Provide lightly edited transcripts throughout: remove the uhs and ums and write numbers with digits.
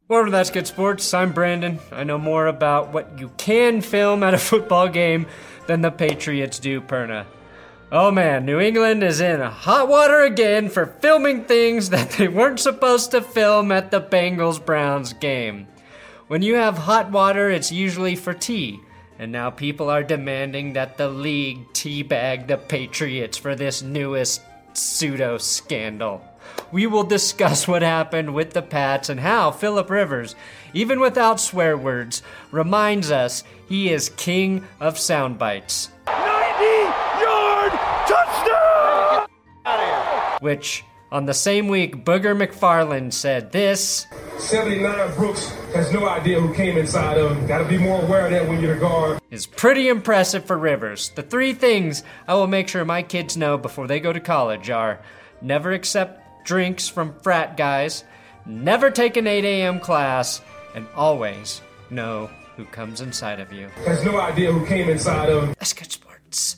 Welcome to That's Good Sports. I'm Brandon. I know more about what you can film at a football game than the Patriots do, Perna. Oh man, New England is in hot water again for filming things that they weren't supposed to film at the Bengals-Browns game. When you have hot water, it's usually for tea. And now people are demanding that the league teabag the Patriots for this newest pseudo-scandal. We will discuss what happened with the Pats and how Philip Rivers, even without swear words, reminds us he is king of sound bites. 90-yard touchdown! Which, on the same week, Booger McFarland said this. 79 Brooks has no idea who came inside of him. Gotta be more aware of that when you're the guard. Is pretty impressive for Rivers. The three things I will make sure my kids know before they go to college are never accept drinks from frat guys, never take an 8 a.m. class, and always know who comes inside of you. Has no idea who came inside of him. That's Good Sports.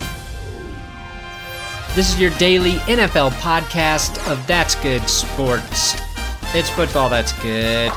This is your daily NFL podcast of That's Good Sports. It's football that's good.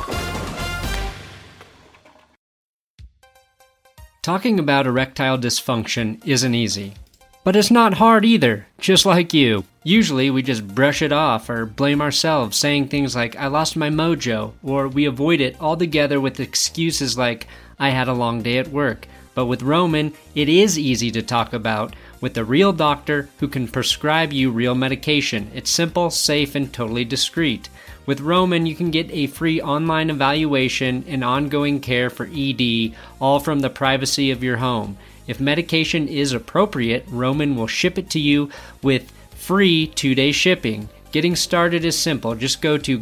Talking about erectile dysfunction isn't easy. But it's not hard either, just like you. Usually we just brush it off or blame ourselves, saying things like, I lost my mojo, or we avoid it altogether with excuses like, I had a long day at work. But with Roman, it is easy to talk about, with a real doctor who can prescribe you real medication. It's simple, safe, and totally discreet. With Roman, you can get a free online evaluation and ongoing care for ED, all from the privacy of your home. If medication is appropriate, Roman will ship it to you with free 2-day shipping. Getting started is simple. Just go to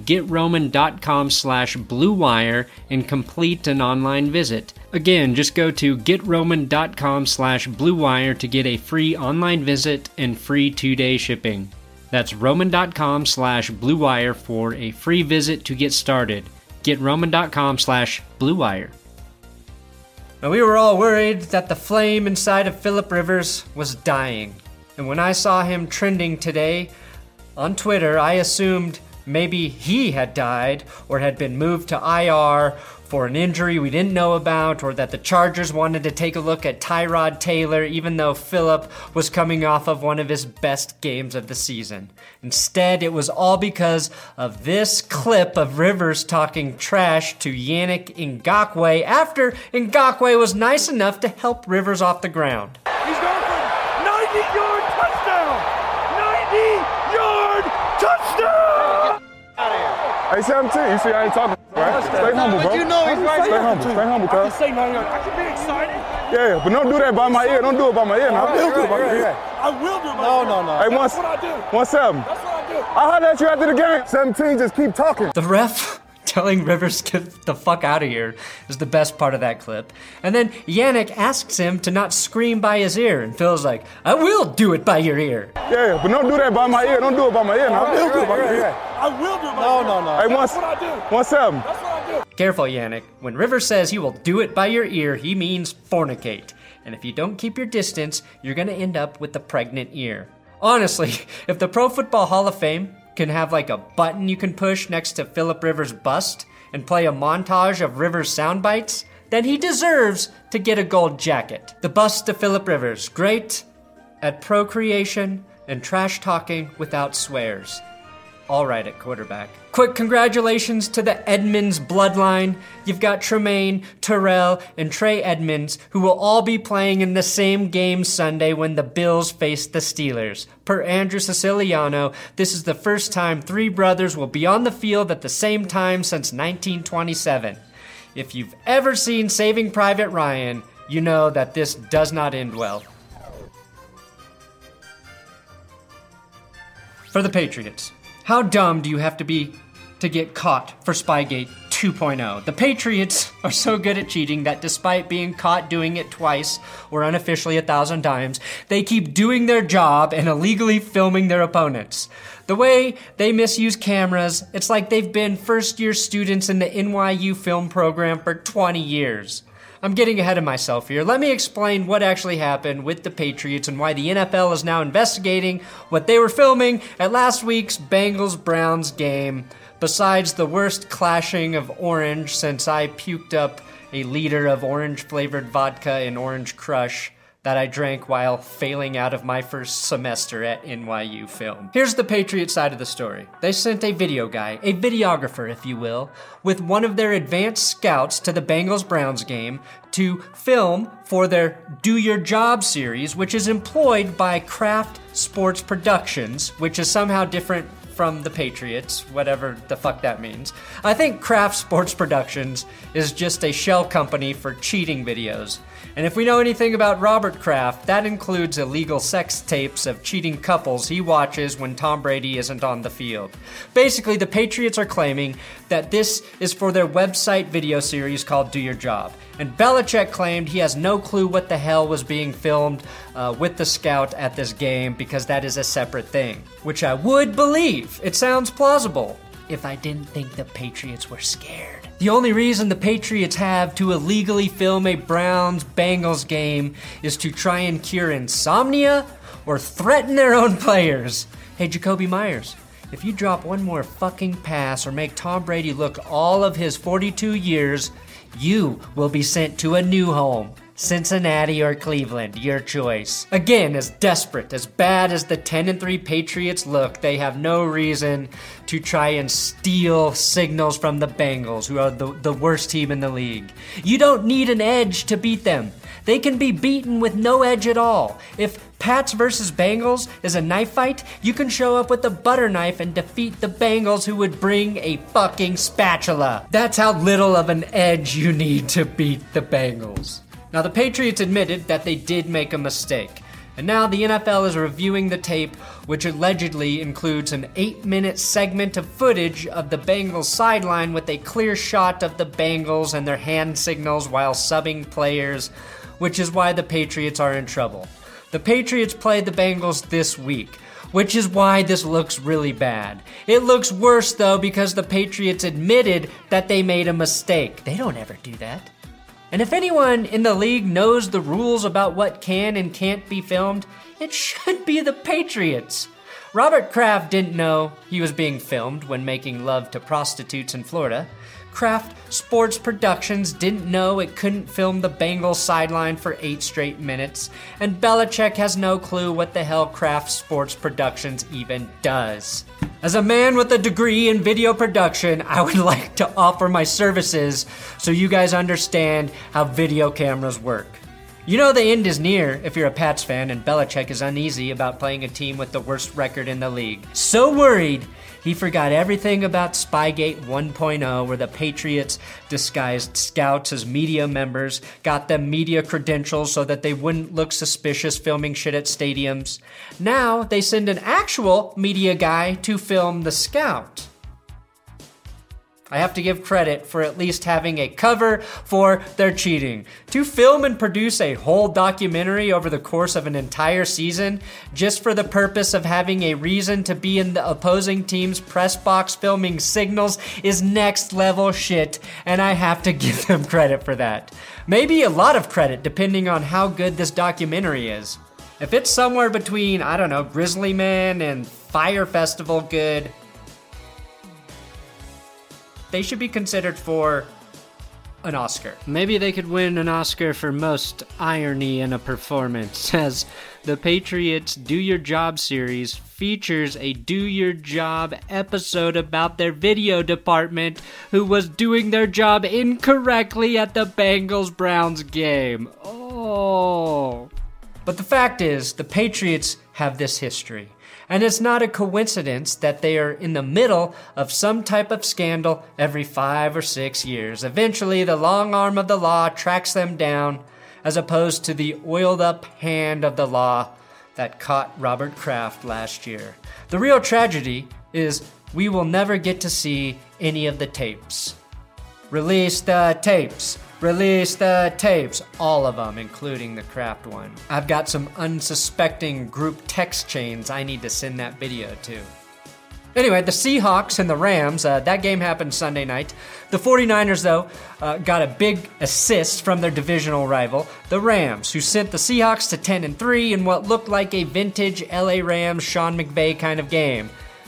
GetRoman.com/BlueWire and complete an online visit. Again, just go to GetRoman.com/BlueWire to get a free online visit and free 2-day shipping. That's Roman.com/BlueWire for a free visit to get started. GetRoman.com/BlueWire. Now, we were all worried that the flame inside of Philip Rivers was dying. And when I saw him trending today on Twitter, I assumed maybe he had died or had been moved to IR for an injury we didn't know about, or that the Chargers wanted to take a look at Tyrod Taylor even though Philip was coming off of one of his best games of the season. Instead, it was all because of this clip of Rivers talking trash to Yannick Ngakoue after Ngakoue was nice enough to help Rivers off the ground. He's going for 90-yard touchdown! 90-yard touchdown! Hey, 17, you see I ain't talking, right? Stay humble, bro. You know he's right. Stay humble, I cuz. can say 90 yards. I can be excited. Yeah, but don't do that by my ear. Don't do it by my ear now. I will do it by my ear. I will do it by my ear. No. Hey, That's what I do. 1-7. That's what I do. I heard at you after the game. 17, just keep talking. The ref telling Rivers get the fuck out of here is the best part of that clip. And then Yannick asks him to not scream by his ear, and Phil's like, I will do it by your ear. Yeah, but don't do that by my ear. Don't do it by my ear now. I will do it by my ear. I will do it by my ear. No. Hey, That's what I do. 1-7. That's what I do. Careful, Yannick. When Rivers says he will do it by your ear, he means fornicate. And if you don't keep your distance, you're gonna end up with a pregnant ear. Honestly, if the Pro Football Hall of Fame can have like a button you can push next to Philip Rivers' bust and play a montage of Rivers sound bites, then he deserves to get a gold jacket. The bust of Philip Rivers, great at procreation and trash talking without swears. All right at quarterback. Quick congratulations to the Edmonds bloodline. You've got Tremaine, Terrell, and Trey Edmonds, who will all be playing in the same game Sunday when the Bills face the Steelers. Per Andrew Siciliano, this is the first time three brothers will be on the field at the same time since 1927. If you've ever seen Saving Private Ryan, you know that this does not end well. For the Patriots, how dumb do you have to be to get caught for Spygate 2.0? The Patriots are so good at cheating that despite being caught doing it twice, or unofficially 1,000 times, they keep doing their job and illegally filming their opponents. The way they misuse cameras, it's like they've been first-year students in the NYU film program for 20 years. I'm getting ahead of myself here. Let me explain what actually happened with the Patriots and why the NFL is now investigating what they were filming at last week's Bengals-Browns game. besides the worst clashing of orange since I puked up a liter of orange-flavored vodka in Orange Crush that I drank while failing out of my first semester at NYU Film. Here's the Patriots side of the story. They sent a video guy, a videographer if you will, with one of their advanced scouts to the Bengals-Browns game to film for their Do Your Job series, which is employed by Kraft Sports Productions, which is somehow different from the Patriots, whatever the fuck that means. I think Kraft Sports Productions is just a shell company for cheating videos. And if we know anything about Robert Kraft, that includes illegal sex tapes of cheating couples he watches when Tom Brady isn't on the field. Basically, the Patriots are claiming that this is for their website video series called Do Your Job. And Belichick claimed he has no clue what the hell was being filmed with the scout at this game because that is a separate thing. Which I would believe. It sounds plausible if I didn't think the Patriots were scared. The only reason the Patriots have to illegally film a Browns-Bengals game is to try and cure insomnia or threaten their own players. Hey, Jacoby Myers, if you drop one more fucking pass or make Tom Brady look all of his 42 years, you will be sent to a new home. Cincinnati or Cleveland, your choice. Again, as desperate, as bad as the 10-3 Patriots look, they have no reason to try and steal signals from the Bengals, who are the worst team in the league. You don't need an edge to beat them. They can be beaten with no edge at all. If Pats versus Bengals is a knife fight, you can show up with a butter knife and defeat the Bengals who would bring a fucking spatula. That's how little of an edge you need to beat the Bengals. Now, the Patriots admitted that they did make a mistake, and now the NFL is reviewing the tape, which allegedly includes an 8-minute segment of footage of the Bengals sideline with a clear shot of the Bengals and their hand signals while subbing players, which is why the Patriots are in trouble. The Patriots play the Bengals this week, which is why this looks really bad. It looks worse, though, because the Patriots admitted that they made a mistake. They don't ever do that. And if anyone in the league knows the rules about what can and can't be filmed, it should be the Patriots. Robert Kraft didn't know he was being filmed when making love to prostitutes in Florida. Kraft Sports Productions didn't know it couldn't film the Bengals sideline for 8 straight minutes. And Belichick has no clue what the hell Kraft Sports Productions even does. As a man with a degree in video production, I would like to offer my services so you guys understand how video cameras work. You know the end is near if you're a Pats fan, and Belichick is uneasy about playing a team with the worst record in the league. So worried, he forgot everything about Spygate 1.0, where the Patriots disguised scouts as media members, got them media credentials so that they wouldn't look suspicious filming shit at stadiums. Now they send an actual media guy to film the scout. I have to give credit for at least having a cover for their cheating. To film and produce a whole documentary over the course of an entire season just for the purpose of having a reason to be in the opposing team's press box filming signals is next level shit, and I have to give them credit for that. Maybe a lot of credit depending on how good this documentary is. If it's somewhere between, I don't know, Grizzly Man and Fire Festival good, they should be considered for an Oscar. Maybe they could win an Oscar for most irony in a performance, as the Patriots' Do Your Job series features a Do Your Job episode about their video department who was doing their job incorrectly at the Bengals-Browns game. Oh. But the fact is, the Patriots have this history. And it's not a coincidence that they are in the middle of some type of scandal every 5 or 6 years. Eventually, the long arm of the law tracks them down, as opposed to the oiled-up hand of the law that caught Robert Kraft last year. The real tragedy is we will never get to see any of the tapes. Release the tapes. Release the tapes. All of them, including the Kraft one. I've got some unsuspecting group text chains I need to send that video to. Anyway, the Seahawks and the Rams, that game happened Sunday night. The 49ers, though, got a big assist from their divisional rival, the Rams, who sent the Seahawks to 10-3 in what looked like a vintage LA Rams Sean McVay kind of game.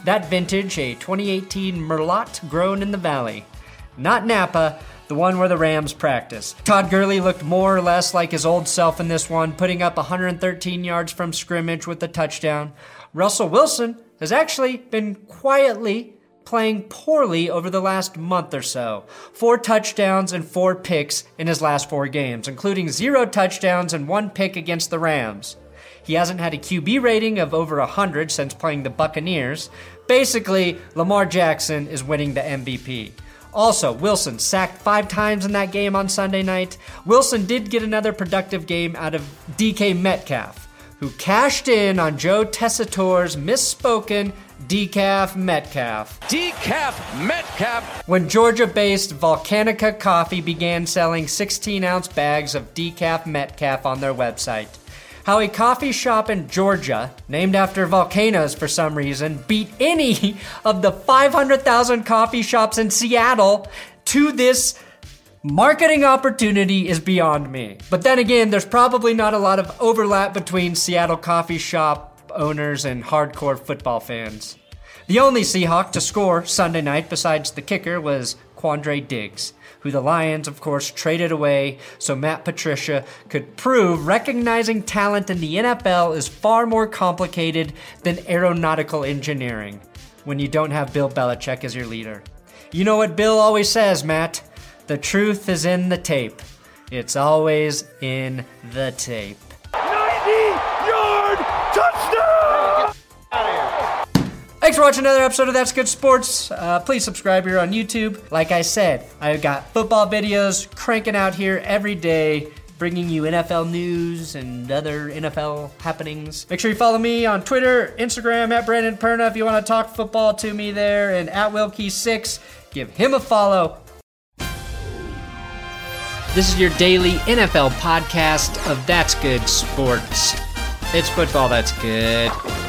That vintage, a 2018 Merlot grown in the Valley. Not Napa, the one where the Rams practice. Todd Gurley looked more or less like his old self in this one, putting up 113 yards from scrimmage with a touchdown. Russell Wilson has actually been quietly playing poorly over the last month or so. 4 touchdowns and 4 picks in his last 4 games, including 0 touchdowns and 1 pick against the Rams. He hasn't had a QB rating of over 100 since playing the Buccaneers. Basically, Lamar Jackson is winning the MVP. Also, Wilson sacked 5 times in that game on Sunday night. Wilson did get another productive game out of DK Metcalf, who cashed in on Joe Tessitore's misspoken Decaf Metcalf. Decaf Metcalf! When Georgia-based Volcanica Coffee began selling 16-ounce bags of Decaf Metcalf on their website. How a coffee shop in Georgia, named after volcanoes for some reason, beat any of the 500,000 coffee shops in Seattle to this marketing opportunity is beyond me. But then again, there's probably not a lot of overlap between Seattle coffee shop owners and hardcore football fans. The only Seahawk to score Sunday night besides the kicker was Quandre Diggs, who the Lions, of course, traded away so Matt Patricia could prove recognizing talent in the NFL is far more complicated than aeronautical engineering when you don't have Bill Belichick as your leader. You know what Bill always says, Matt? The truth is in the tape. It's always in the tape. 90-yard touchdown! Thanks for watching another episode of That's Good Sports. Please subscribe here on YouTube. Like I said, I've got football videos cranking out here every day, bringing you NFL news and other NFL happenings. Make sure you follow me on Twitter, Instagram, at Brandon Perna if you want to talk football to me there, and at Wilkie6. Give him a follow. This is your daily NFL podcast of That's Good Sports. It's football that's good.